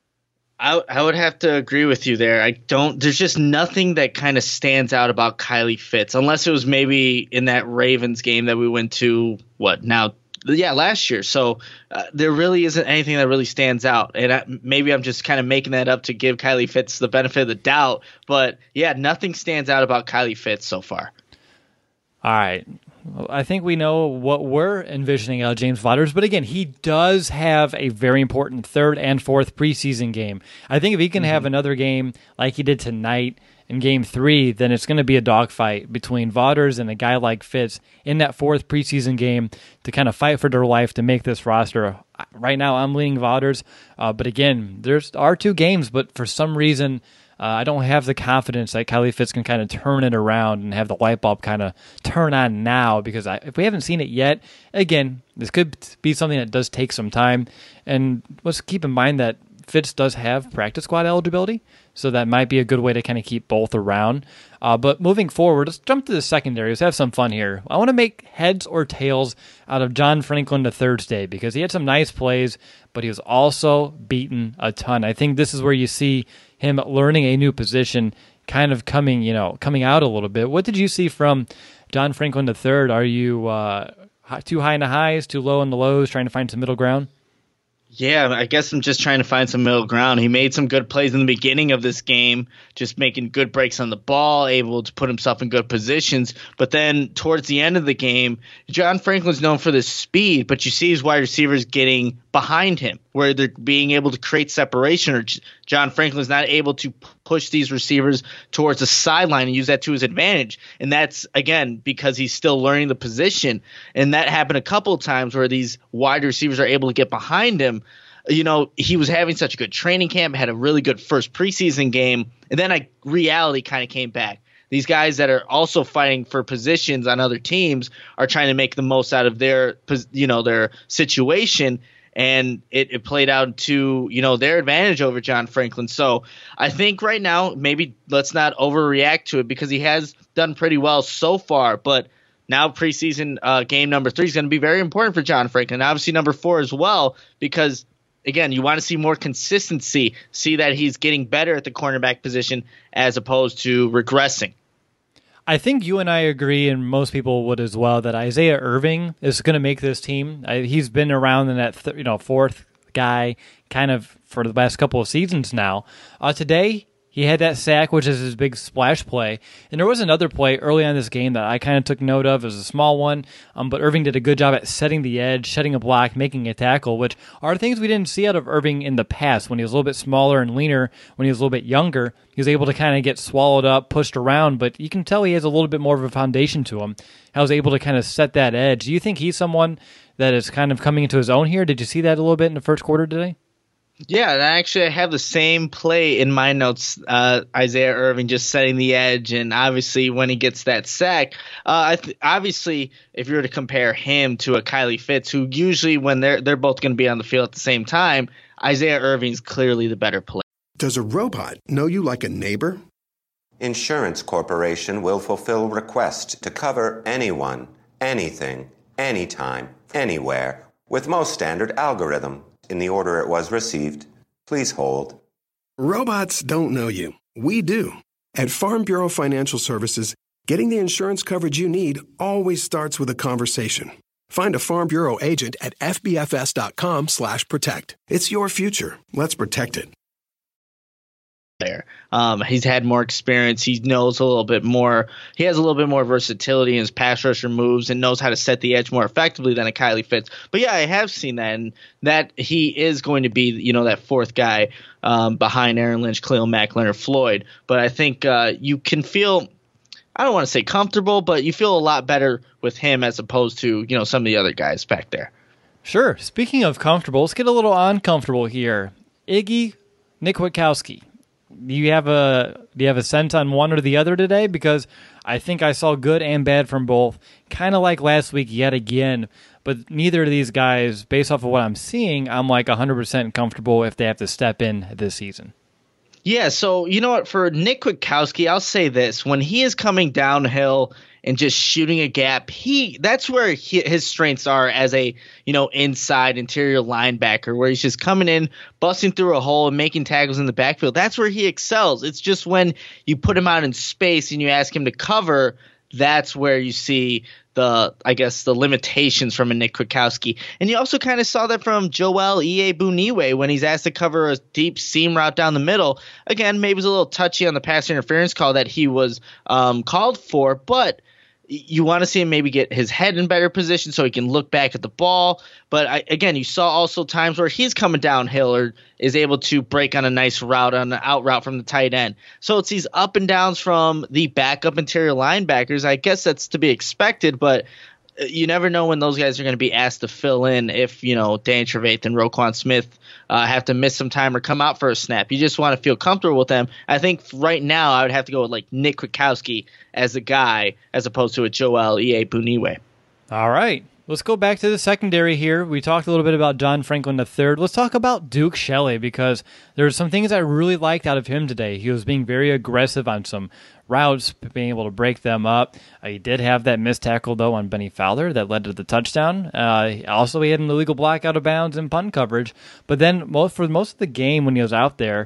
I, I would have to agree with you there. I don't. There's just nothing that kind of stands out about Kylie Fitz, unless it was maybe in that Ravens game that we went to. What now? Yeah, last year. So uh, there really isn't anything that really stands out. And I, maybe I'm just kind of making that up to give Kylie Fitz the benefit of the doubt. But, yeah, nothing stands out about Kylie Fitz so far. All right. Well, I think we know what we're envisioning out of James Vaughters. But, again, he does have a very important third and fourth preseason game. I think if he can mm-hmm. have another game like he did tonight in game three, then it's going to be a dogfight between Vaughters and a guy like Fitz in that fourth preseason game to kind of fight for their life to make this roster. Right now, I'm leaning Vaughters. Uh, but again, there's are two games, but for some reason, uh, I don't have the confidence that Kylie Fitz can kind of turn it around and have the light bulb kind of turn on now because I, if we haven't seen it yet, again, this could be something that does take some time. And let's keep in mind that Fitz does have practice squad eligibility, so that might be a good way to kind of keep both around. Uh, but moving forward, let's jump to the secondary. Let's have some fun here. I want to make heads or tails out of John Franklin the Thursday because he had some nice plays, but he was also beaten a ton. I think this is where you see him learning a new position, kind of coming, you know, coming out a little bit. What did you see from John Franklin the third? Are you uh, too high in the highs, too low in the lows, trying to find some middle ground? Yeah, I guess I'm just trying to find some middle ground. He made some good plays in the beginning of this game, just making good breaks on the ball, able to put himself in good positions. But then towards the end of the game, John Franklin's known for this speed, but you see his wide receivers getting behind him, where they're being able to create separation, or John Franklin's not able to push these receivers towards the sideline and use that to his advantage. And that's, again, because he's still learning the position. And that happened a couple of times where these wide receivers are able to get behind him. You know, he was having such a good training camp, had a really good first preseason game, and then a reality kind of came back. These guys that are also fighting for positions on other teams are trying to make the most out of their, you know, their situation. And it, it played out to, you know, their advantage over John Franklin. So I think right now, maybe let's not overreact to it, because he has done pretty well so far. But now preseason uh, game number three is going to be very important for John Franklin. Obviously number four as well, because, again, you want to see more consistency, see that he's getting better at the cornerback position as opposed to regressing. I think you and I agree, and most people would as well, that Isaiah Irving is going to make this team. I, he's been around in that th- you know fourth guy kind of for the last couple of seasons now. Uh, today, he had that sack, which is his big splash play. And there was another play early on in this game that I kind of took note of. It was a small one, um, but Irving did a good job at setting the edge, setting a block, making a tackle, which are things we didn't see out of Irving in the past. When he was a little bit smaller and leaner, when he was a little bit younger, he was able to kind of get swallowed up, pushed around, but you can tell he has a little bit more of a foundation to him. I was able to kind of set that edge. Do you think he's someone that is kind of coming into his own here? Did you see that a little bit in the first quarter today? Yeah, and actually I have the same play in my notes, uh, Isaiah Irving just setting the edge, and obviously when he gets that sack, uh, I th- obviously if you were to compare him to a Kylie Fitz, who usually when they're they're both going to be on the field at the same time, Isaiah Irving's clearly the better player. Does a robot know you like a neighbor? Insurance Corporation will fulfill requests to cover anyone, anything, anytime, anywhere, with most standard algorithm. In the order it was received. Please hold. Robots don't know you. We do. At Farm Bureau Financial Services, getting the insurance coverage you need always starts with a conversation. Find a Farm Bureau agent at fbfs.com slash protect. It's your future. Let's protect it. There. Um, he's had more experience. He knows a little bit more. He has a little bit more versatility in his pass rusher moves and knows how to set the edge more effectively than a Kylie Fitz. But yeah, I have seen that, and that he is going to be, you know, that fourth guy um, behind Aaron Lynch, Khalil Mack, Leonard Floyd. But I think uh, you can feel, I don't want to say comfortable, but you feel a lot better with him as opposed to, you know, some of the other guys back there. Sure. Speaking of comfortable, let's get a little uncomfortable here. Iggy Nick Witkowski. Do you have a do you have a sense on one or the other today? Because I think I saw good and bad from both. Kind of like last week yet again, but neither of these guys, based off of what I'm seeing, I'm like one hundred percent comfortable if they have to step in this season. Yeah, so you know what? For Nick Witkowski, I'll say this. When he is coming downhill and just shooting a gap, he that's where he, his strengths are as a, you know, inside interior linebacker, where he's just coming in, busting through a hole and making tackles in the backfield. That's where he excels. It's just when you put him out in space and you ask him to cover, that's where you see the, I guess, the limitations from a Nick Witkowski. And you also kind of saw that from Joel Iyiegbuniwe when he's asked to cover a deep seam route down the middle. Again, maybe it was a little touchy on the pass interference call that he was um, called for, but you want to see him maybe get his head in better position so he can look back at the ball. But I, again, you saw also times where he's coming downhill or is able to break on a nice route, on an out route from the tight end. So it's these up and downs from the backup interior linebackers. I guess that's to be expected, but you never know when those guys are going to be asked to fill in if, you know, Dan Trevathan and Roquan Smith uh, have to miss some time or come out for a snap. You just want to feel comfortable with them. I think right now I would have to go with like Nick Witkowski as a guy as opposed to a Joel Iyiegbuniwe. All right. Let's go back to the secondary here. We talked a little bit about John Franklin the third. Let's talk about Duke Shelley, because there's some things I really liked out of him today. He was being very aggressive on some routes, being able to break them up. Uh, he did have that missed tackle, though, on Benny Fowler that led to the touchdown. Uh, also, he had an illegal block out of bounds and punt coverage. But then most, for most of the game when he was out there,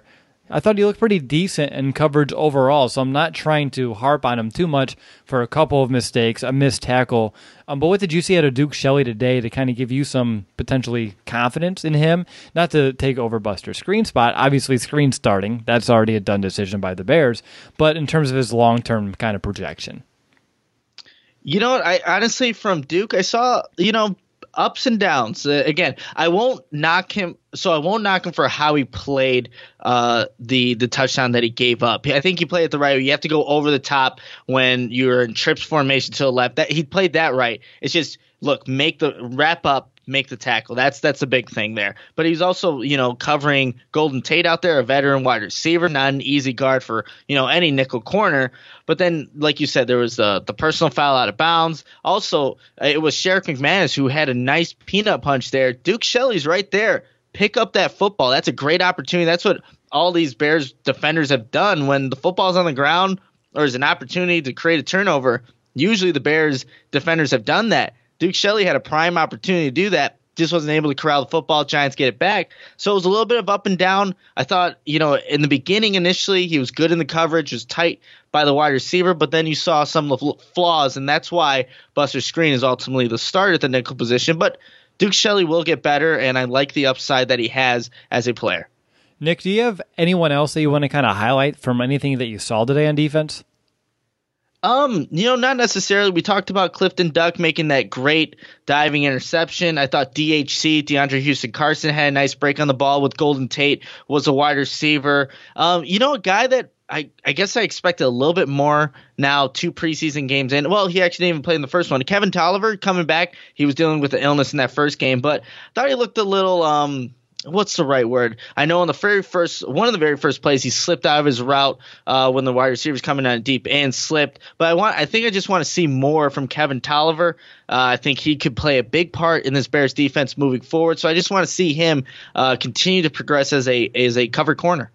I thought he looked pretty decent in coverage overall, so I'm not trying to harp on him too much for a couple of mistakes, a missed tackle. Um, but what did you see out of Duke Shelley today to kind of give you some potentially confidence in him? Not to take over Buster Skrine's spot. Obviously, Skrine starting. That's already a done decision by the Bears. But in terms of his long-term kind of projection. You know what? I honestly, from Duke, I saw, you know, ups and downs. Uh, again, I won't knock him. So I won't knock him for how he played uh, the the touchdown that he gave up. I think he played it the right way. You have to go over the top when you're in trips formation to the left. That he played that right. It's just, look, make the wrap up, make the tackle. That's that's a big thing there. But he's also, you know, covering Golden Tate out there, a veteran wide receiver, not an easy guard for, you know, any nickel corner. But then, like you said, there was the the personal foul out of bounds. Also, it was Sherrick McManus who had a nice peanut punch there. Duke Shelley's right there. Pick up that football. That's a great opportunity. That's what all these Bears defenders have done when the football's on the ground or there's an opportunity to create a turnover. Usually the Bears defenders have done that. Duke Shelley had a prime opportunity to do that. Just wasn't able to corral the football. Giants get it back. So it was a little bit of up and down. I thought, you know, in the beginning initially he was good in the coverage, was tight by the wide receiver, but then you saw some of the flaws, and that's why Buster Skrine is ultimately the starter at the nickel position. But Duke Shelley will get better, and I like the upside that he has as a player. Nick, do you have anyone else that you want to kind of highlight from anything that you saw today on defense? Um, you know, not necessarily. We talked about Clifton Duck making that great diving interception. I thought D H C, DeAndre Houston Carson, had a nice break on the ball with Golden Tate, was a wide receiver. Um, you know, a guy that I, I guess I expected a little bit more now, two preseason games in. Well, he actually didn't even play in the first one. Kevin Tolliver coming back. He was dealing with the illness in that first game, but I thought he looked a little, um, what's the right word? I know on the very first, one of the very first plays, he slipped out of his route uh, when the wide receiver was coming on deep and slipped. But I want, I think I just want to see more from Kevin Tolliver. Uh, I think he could play a big part in this Bears defense moving forward. So I just want to see him uh, continue to progress as a as a cover corner.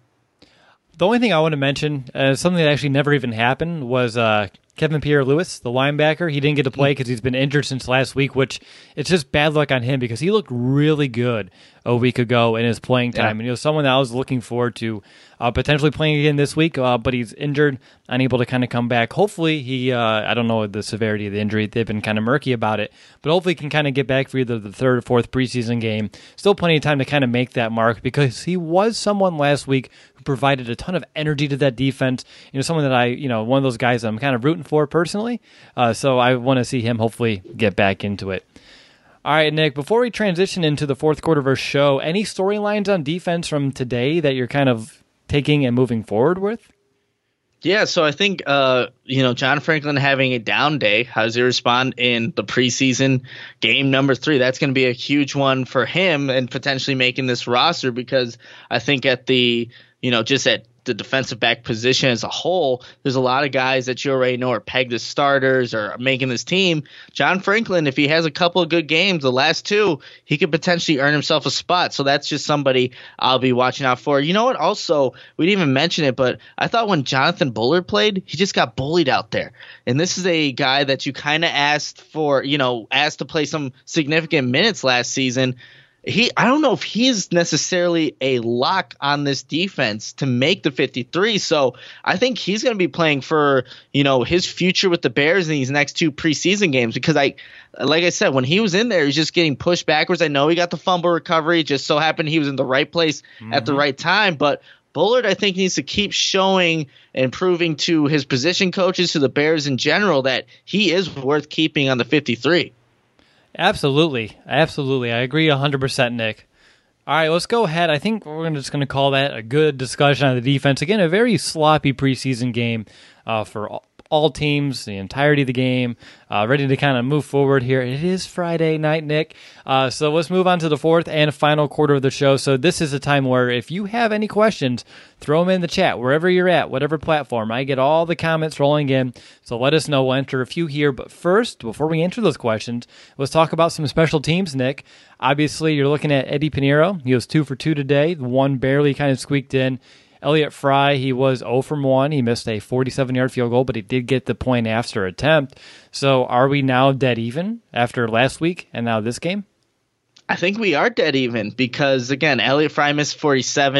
The only thing I want to mention, uh, something that actually never even happened, was uh, Kevin Pierre-Louis, the linebacker. He didn't get to play because he's been injured since last week, which it's just bad luck on him because he looked really good a week ago in his playing time. Yeah. And he was someone that I was looking forward to uh, potentially playing again this week, uh, but he's injured, unable to kind of come back. Hopefully he, uh, I don't know the severity of the injury. They've been kind of murky about it, but hopefully he can kind of get back for either the third or fourth preseason game. Still plenty of time to kind of make that mark because he was someone last week who provided a ton of energy to that defense. You know, someone that I, you know, one of those guys that I'm kind of rooting for personally. Uh, so I want to see him hopefully get back into it. All right, Nick, before we transition into the fourth quarter of our show, any storylines on defense from today that you're kind of taking and moving forward with? Yeah, so I think, uh, you know, John Franklin having a down day, how does he respond in the preseason game number three? That's going to be a huge one for him and potentially making this roster because I think at the, you know, just at the defensive back position as a whole, there's a lot of guys that you already know are pegged as starters or making this team. John Franklin, if he has a couple of good games, the last two, he could potentially earn himself a spot. So that's just somebody I'll be watching out for. You know what? Also, we didn't even mention it, but I thought when Jonathan Bullard played, he just got bullied out there. And this is a guy that you kind of asked for, you know, asked to play some significant minutes last season. He, I don't know if he's necessarily a lock on this defense to make the fifty-three. So I think he's going to be playing for, you know, his future with the Bears in these next two preseason games because I, like I said, when he was in there, he's just getting pushed backwards. I know he got the fumble recovery. It just so happened he was in the right place mm-hmm. at the right time. But Bullard, I think, needs to keep showing and proving to his position coaches, to the Bears in general, that he is worth keeping on the fifty-three. Absolutely. Absolutely. I agree one hundred percent, Nick. All right, let's go ahead. I think we're just going to call that a good discussion on the defense. Again, a very sloppy preseason game uh, for all, all teams, the entirety of the game, uh, ready to kind of move forward here. It is Friday night, Nick. Uh, so let's move on to the fourth and final quarter of the show. So this is a time where if you have any questions, throw them in the chat, wherever you're at, whatever platform. I get all the comments rolling in, so let us know. We'll enter a few here. But first, before we answer those questions, let's talk about some special teams, Nick. Obviously, you're looking at Eddie Pinheiro. He was two for two today. One barely kind of squeaked in. Elliott Fry, he was zero from one. He missed a forty-seven-yard field goal, but he did get the point after attempt. So are we now dead even after last week and now this game? I think we are dead even because, again, Elliott Fry missed forty-seven.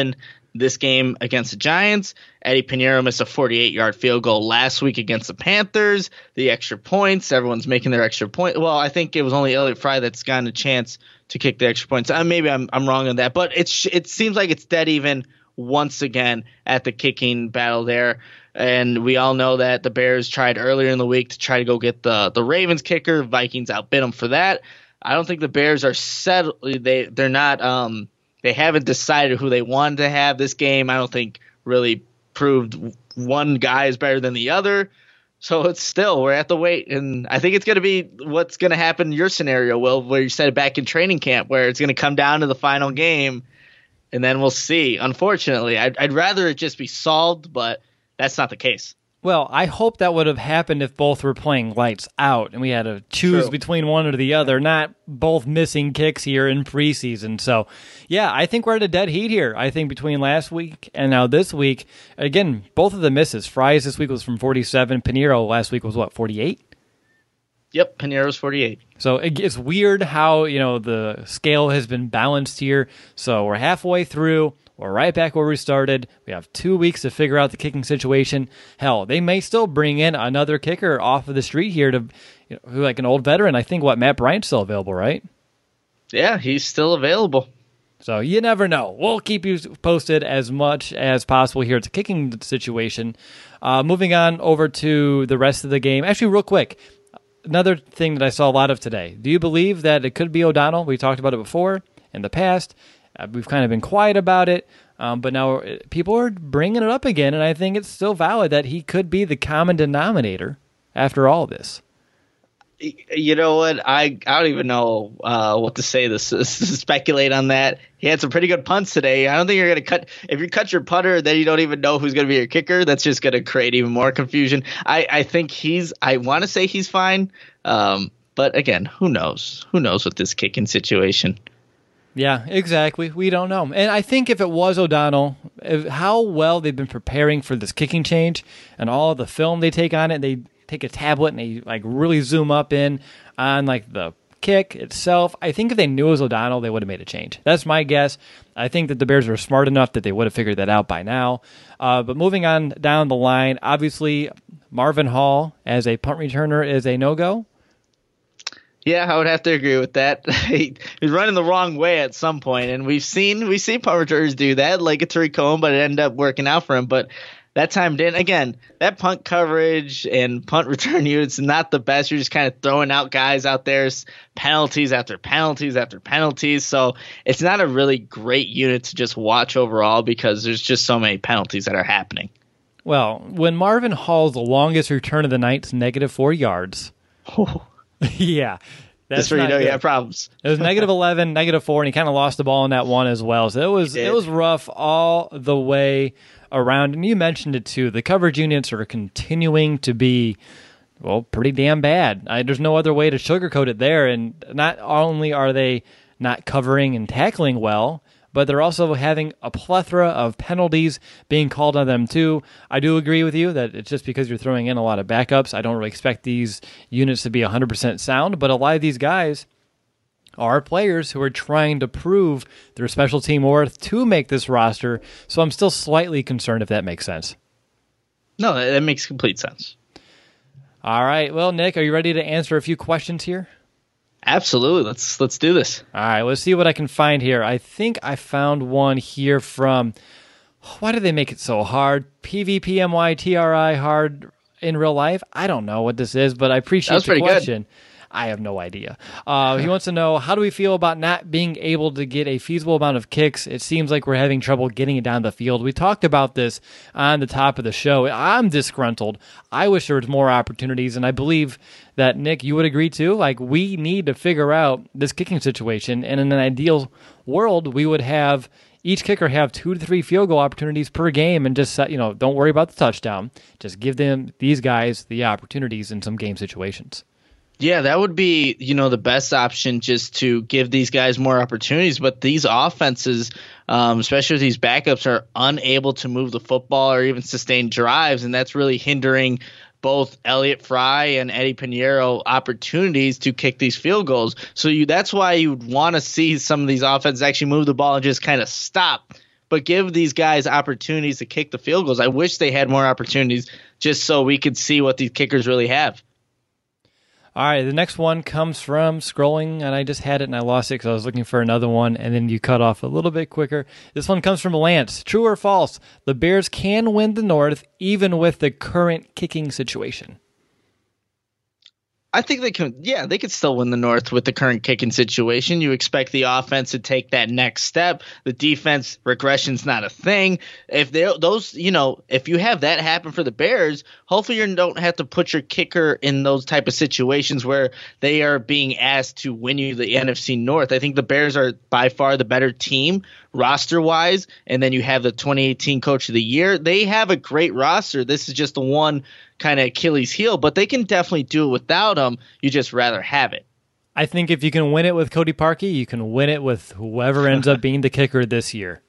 this game against the Giants. Eddie Pinheiro missed a forty-eight-yard field goal last week against the Panthers. The extra points, everyone's making their extra point. Well, I think it was only Elliott Fry that's gotten a chance to kick the extra points. Uh, maybe I'm I'm wrong on that, but it's it seems like it's dead even once again at the kicking battle there. And we all know that the Bears tried earlier in the week to try to go get the the Ravens kicker. Vikings outbid them for that. I don't think the Bears are set. They they're not. Um, they haven't decided who they wanted to have this game. I don't think really proved one guy is better than the other. So it's still we're at the wait, and I think it's going to be what's going to happen in your scenario, Will, where you said it back in training camp, where it's going to come down to the final game, and then we'll see. Unfortunately, I'd, I'd rather it just be solved, but that's not the case. Well, I hope that would have happened if both were playing lights out and we had to choose True. between one or the other, not both missing kicks here in preseason. So, yeah, I think we're at a dead heat here. I think between last week and now this week, again, both of the misses. Fry's this week was from forty-seven. Pinheiro last week was, what, forty-eight? Yep, Pinheiro's forty-eight. So it, it's weird how, you know, the scale has been balanced here. So we're halfway through. We're right back where we started. We have two weeks to figure out the kicking situation. Hell, they may still bring in another kicker off of the street here to, you know, who like an old veteran. I think, what, Matt Bryant's still available, right? Yeah, he's still available. So you never know. We'll keep you posted as much as possible here. It's a kicking situation. Uh, moving on over to the rest of the game. Actually, real quick, another thing that I saw a lot of today. Do you believe that it could be O'Donnell? We talked about it before in the past. Uh, we've kind of been quiet about it, um, but now people are bringing it up again, and I think it's still valid that he could be the common denominator after all this. You know what? I, I don't even know uh, what to say to speculate on that. He had some pretty good punts today. I don't think you're going to cut – if you cut your punter, then you don't even know who's going to be your kicker. That's just going to create even more confusion. I, I think he's – I want to say he's fine, um, but again, who knows? Who knows with this kicking situation? Yeah, exactly. We don't know. And I think if it was O'Donnell, if, how well they've been preparing for this kicking change and all the film they take on it, they take a tablet and they like really zoom up in on like the kick itself. I think if they knew it was O'Donnell, they would have made a change. That's my guess. I think that the Bears are smart enough that they would have figured that out by now. Uh, but moving on down the line, obviously Marvin Hall as a punt returner is a no-go. Yeah, I would have to agree with that. he, he's running the wrong way at some point, and we've seen we see punt returners do that, like a Tariq Cohen, but it ended up working out for him. But that time didn't. Again, that punt coverage and punt return unit's not the best. You're just kind of throwing out guys out there, penalties after penalties after penalties. So it's not a really great unit to just watch overall because there's just so many penalties that are happening. Well, when Marvin Hall's longest return of the night's negative four yards. Yeah. That's Just where you know good. you have problems. It was negative eleven, negative four, and he kind of lost the ball in that one as well. So it was it was rough all the way around. And you mentioned it too. The coverage units are continuing to be, well, pretty damn bad. I, there's no other way to sugarcoat it there. And not only are they not covering and tackling well, but they're also having a plethora of penalties being called on them too. I do agree with you that it's just because you're throwing in a lot of backups. I don't really expect these units to be one hundred percent sound, but a lot of these guys are players who are trying to prove their special team worth to make this roster, so I'm still slightly concerned if that makes sense. No, that makes complete sense. All right, well, Nick, are you ready to answer a few questions here? Absolutely. Let's let's do this. All right, let's see what I can find here. I think I found one here from, why do they make it so hard? P V P M Y T R I hard in real life? I don't know what this is, but I appreciate the question. Good. I have no idea. Uh, he wants to know, how do we feel about not being able to get a feasible amount of kicks? It seems like we're having trouble getting it down the field. We talked about this on the top of the show. I'm disgruntled. I wish there was more opportunities, and I believe that, Nick, you would agree too. Like, we need to figure out this kicking situation, and in an ideal world, we would have each kicker have two to three field goal opportunities per game, and just, you know, don't worry about the touchdown. Just give them, these guys, the opportunities in some game situations. Yeah, that would be, you know, the best option, just to give these guys more opportunities. But these offenses, um, especially these backups, are unable to move the football or even sustain drives, and that's really hindering both Elliott Fry and Eddie Pinheiro opportunities to kick these field goals. So you, that's why you would want to see some of these offenses actually move the ball and just kind of stop but give these guys opportunities to kick the field goals. I wish they had more opportunities just so we could see what these kickers really have. All right, the next one comes from scrolling, and I just had it and I lost it because I was looking for another one, and then you cut off a little bit quicker. This one comes from Lance. True or false? The Bears can win the North even with the current kicking situation. I think they can, yeah, they could still win the North with the current kicking situation. You expect the offense to take that next step. The defense regression's not a thing. If they those, you know, if you have that happen for the Bears, hopefully you don't have to put your kicker in those type of situations where they are being asked to win you the N F C North. I think the Bears are by far the better team roster-wise, and then you have the twenty eighteen Coach of the Year. They have a great roster. This is just the one kind of Achilles heel, but they can definitely do it without him. You just rather have it. I think if you can win it with Cody Parkey, you can win it with whoever ends up being the kicker this year.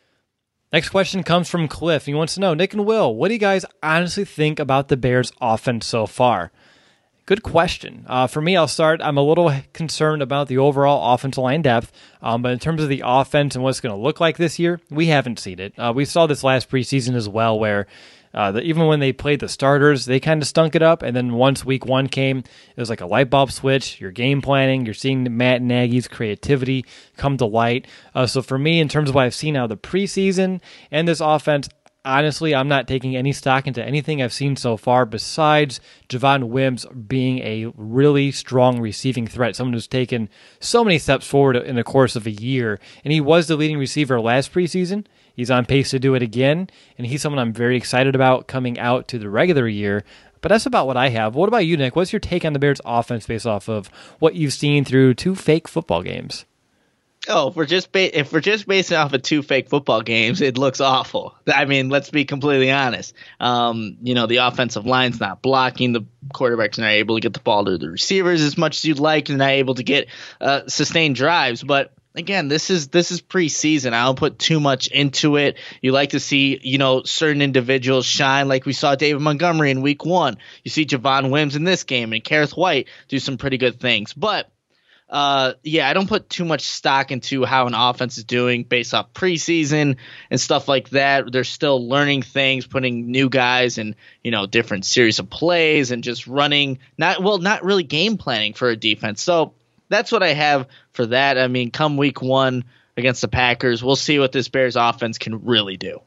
Next question comes from Cliff. He wants to know, Nick and Will, what do you guys honestly think about the Bears' offense so far? Good question. Uh, for me, I'll start. I'm a little concerned about the overall offensive line depth, um, but in terms of the offense and what it's going to look like this year, we haven't seen it. Uh, we saw this last preseason as well, where Uh, the, even when they played the starters, they kind of stunk it up. And then once week one came, it was like a light bulb switch. You're game planning. You're seeing Matt Nagy's creativity come to light. Uh, so for me, in terms of what I've seen out of the preseason and this offense, honestly, I'm not taking any stock into anything I've seen so far besides Javon Wims being a really strong receiving threat, someone who's taken so many steps forward in the course of a year. And he was the leading receiver last preseason. He's on pace to do it again, and he's someone I'm very excited about coming out to the regular year. But that's about what I have. What about you, Nick? What's your take on the Bears' offense based off of what you've seen through two fake football games? Oh, if we're just ba- if we're just basing off of two fake football games, it looks awful. I mean, let's be completely honest. Um, you know, the offensive line's not blocking. The quarterbacks are not able to get the ball to the receivers as much as you'd like, and not able to get uh, sustained drives. But again, this is this is preseason. I don't put too much into it. You like to see, you know, certain individuals shine, like we saw David Montgomery in week one. You see Javon Wims in this game, and Kareth White do some pretty good things. But Uh, yeah, I don't put too much stock into how an offense is doing based off preseason and stuff like that. They're still learning things, putting new guys in, you know, different series of plays and just running, not well, not really game planning for a defense. So that's what I have for that. I mean, come week one against the Packers, we'll see what this Bears offense can really do.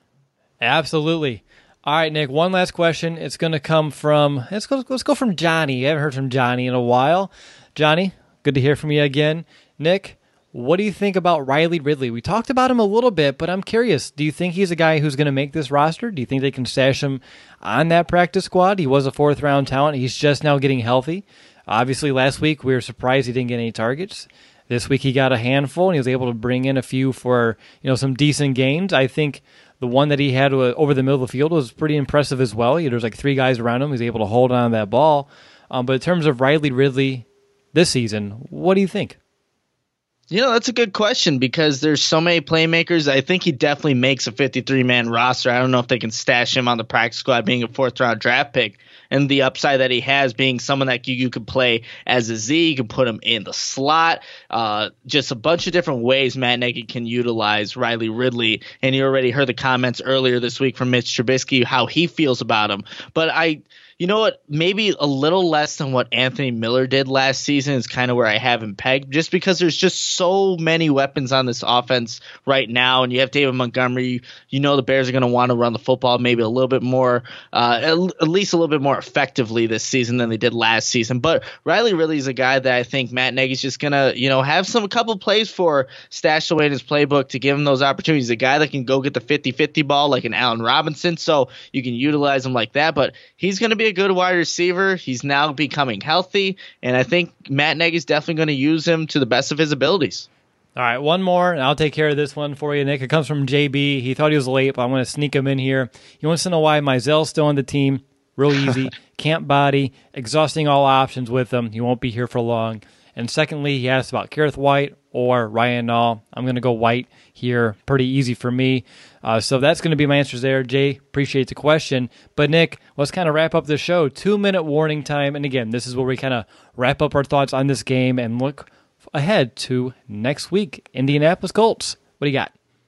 Absolutely. All right, Nick, one last question. It's going to come from, let's go, let's go from Johnny. I haven't heard from Johnny in a while. Johnny, good to hear from you again. Nick, what do you think about Riley Ridley? We talked about him a little bit, but I'm curious. Do you think he's a guy who's going to make this roster? Do you think they can stash him on that practice squad? He was a fourth-round talent. He's just now getting healthy. Obviously, last week we were surprised he didn't get any targets. This week he got a handful, and he was able to bring in a few for, you know, some decent gains. I think the one that he had over the middle of the field was pretty impressive as well. There was like three guys around him. He was able to hold on to that ball. Um, but in terms of Riley Ridley this season, what do you think? You know, that's a good question because there's so many playmakers. I think he definitely makes a fifty-three man roster. I don't know if they can stash him on the practice squad being a fourth-round draft pick, and the upside that he has being someone that you, you could play as a Z. You can put him in the slot. Uh, just a bunch of different ways Matt Nagy can utilize Riley Ridley, and you already heard the comments earlier this week from Mitch Trubisky, how he feels about him. But I – you know what? Maybe a little less than what Anthony Miller did last season is kind of where I have him pegged, just because there's just so many weapons on this offense right now. And you have David Montgomery. You know the Bears are going to want to run the football maybe a little bit more, uh, at least a little bit more effectively this season than they did last season. But Riley Ridley is a guy that I think Matt Nagy's just going to, you know, have some a couple plays for stashed away in his playbook to give him those opportunities. A guy that can go get the fifty-fifty ball like an Allen Robinson, so you can utilize him like that. But he's going to be a good wide receiver. He's now becoming healthy, and I think Matt Nagy is definitely going to use him to the best of his abilities. All right, one more, and I'll take care of this one for you, Nick. It comes from J B. He thought he was late, but I'm going to sneak him in here. He wants to know why Mizell's still on the team. Real easy. Can't body. Exhausting all options with him. He won't be here for long. And secondly, he asked about Kareth White or Ryan Nall. I'm going to go White here. Pretty easy for me. Uh, so that's going to be my answers there. Jay, appreciate the question. But Nick, let's kind of wrap up the show. Two-minute warning time. And again, this is where we kind of wrap up our thoughts on this game and look ahead to next week. Indianapolis Colts. What do you got?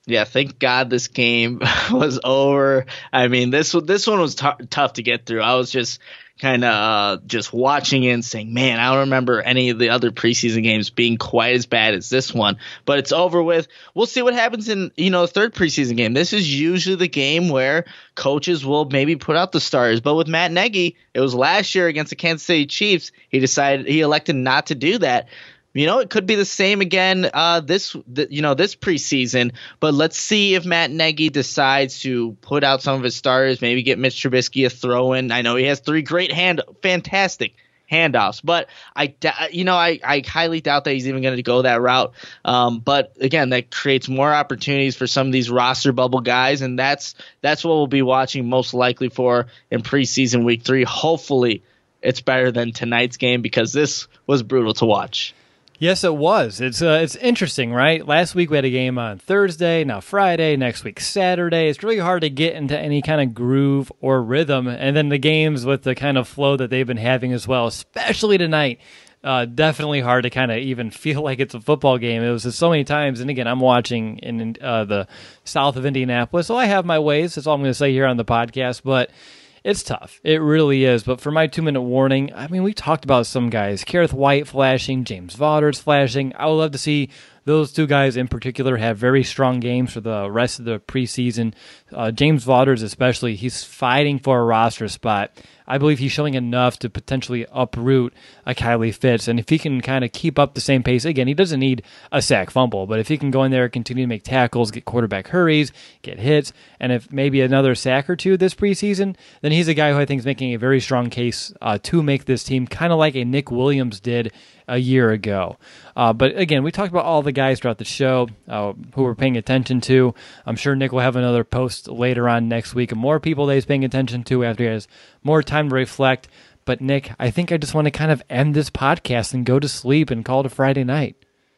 Yeah, thank God this game was over. I mean, this this one was t- tough to get through. I was just kind of uh, just watching it and saying, man, I don't remember any of the other preseason games being quite as bad as this one. But it's over with. We'll see what happens in, you know, the third preseason game. This is usually the game where coaches will maybe put out the starters. But with Matt Nagy, it was last year against the Kansas City Chiefs. He decided he elected not to do that. You know, it could be the same again uh, this, th- you know, this preseason. But let's see if Matt Nagy decides to put out some of his starters, maybe get Mitch Trubisky a throw in. I know he has three great hand, fantastic handoffs, but I, you know, I, I highly doubt that he's even going to go that route. Um, but again, that creates more opportunities for some of these roster bubble guys, and that's that's what we'll be watching most likely for in preseason week three. Hopefully, it's better than tonight's game because this was brutal to watch. Yes, it was. It's uh, it's interesting, right? Last week we had a game on Thursday, now Friday, next week Saturday. It's really hard to get into any kind of groove or rhythm. And then the games with the kind of flow that they've been having as well, especially tonight, uh, definitely hard to kind of even feel like it's a football game. It was just so many times. And again, I'm watching in uh, the south of Indianapolis, so I have my ways. That's all I'm going to say here on the podcast. But it's tough. It really is. But for my two-minute warning, I mean, we talked about some guys. Kareth White flashing, James Vaughters flashing. I would love to see those two guys in particular have very strong games for the rest of the preseason. Uh, James Vaughters especially, he's fighting for a roster spot. I believe he's showing enough to potentially uproot a Kylie Fitz. And if he can kind of keep up the same pace, again, he doesn't need a sack fumble, but if he can go in there, continue to make tackles, get quarterback hurries, get hits, and if maybe another sack or two this preseason, then he's a guy who I think is making a very strong case uh, to make this team kind of like a Nick Williams did a year ago. Uh, but again, we talked about all the guys throughout the show uh, who we're paying attention to. I'm sure Nick will have another post later on next week of more people that he's paying attention to after he has more time to reflect. But Nick, I think I just want to kind of end this podcast and go to sleep and call it a Friday night.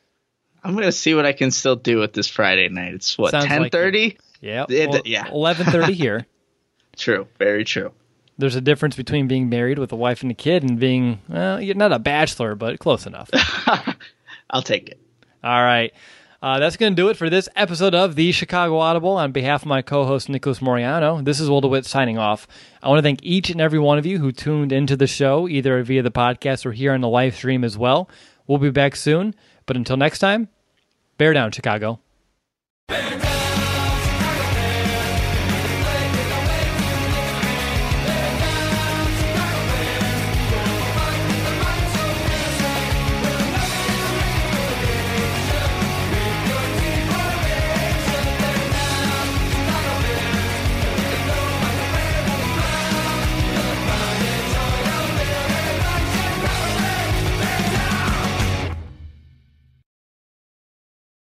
I'm going to see what I can still do with this Friday night. It's what, ten thirty? Like yeah, well, yeah. eleven thirty here. True, very true. There's a difference between being married with a wife and a kid and being, well, you're not a bachelor, but close enough. I'll take it. All right. Uh, that's going to do it for this episode of the Chicago Audible. On behalf of my co-host, Nicholas Moriano, this is Will DeWitt signing off. I want to thank each and every one of you who tuned into the show, either via the podcast or here on the live stream as well. We'll be back soon, but until next time, bear down, Chicago. Bear down.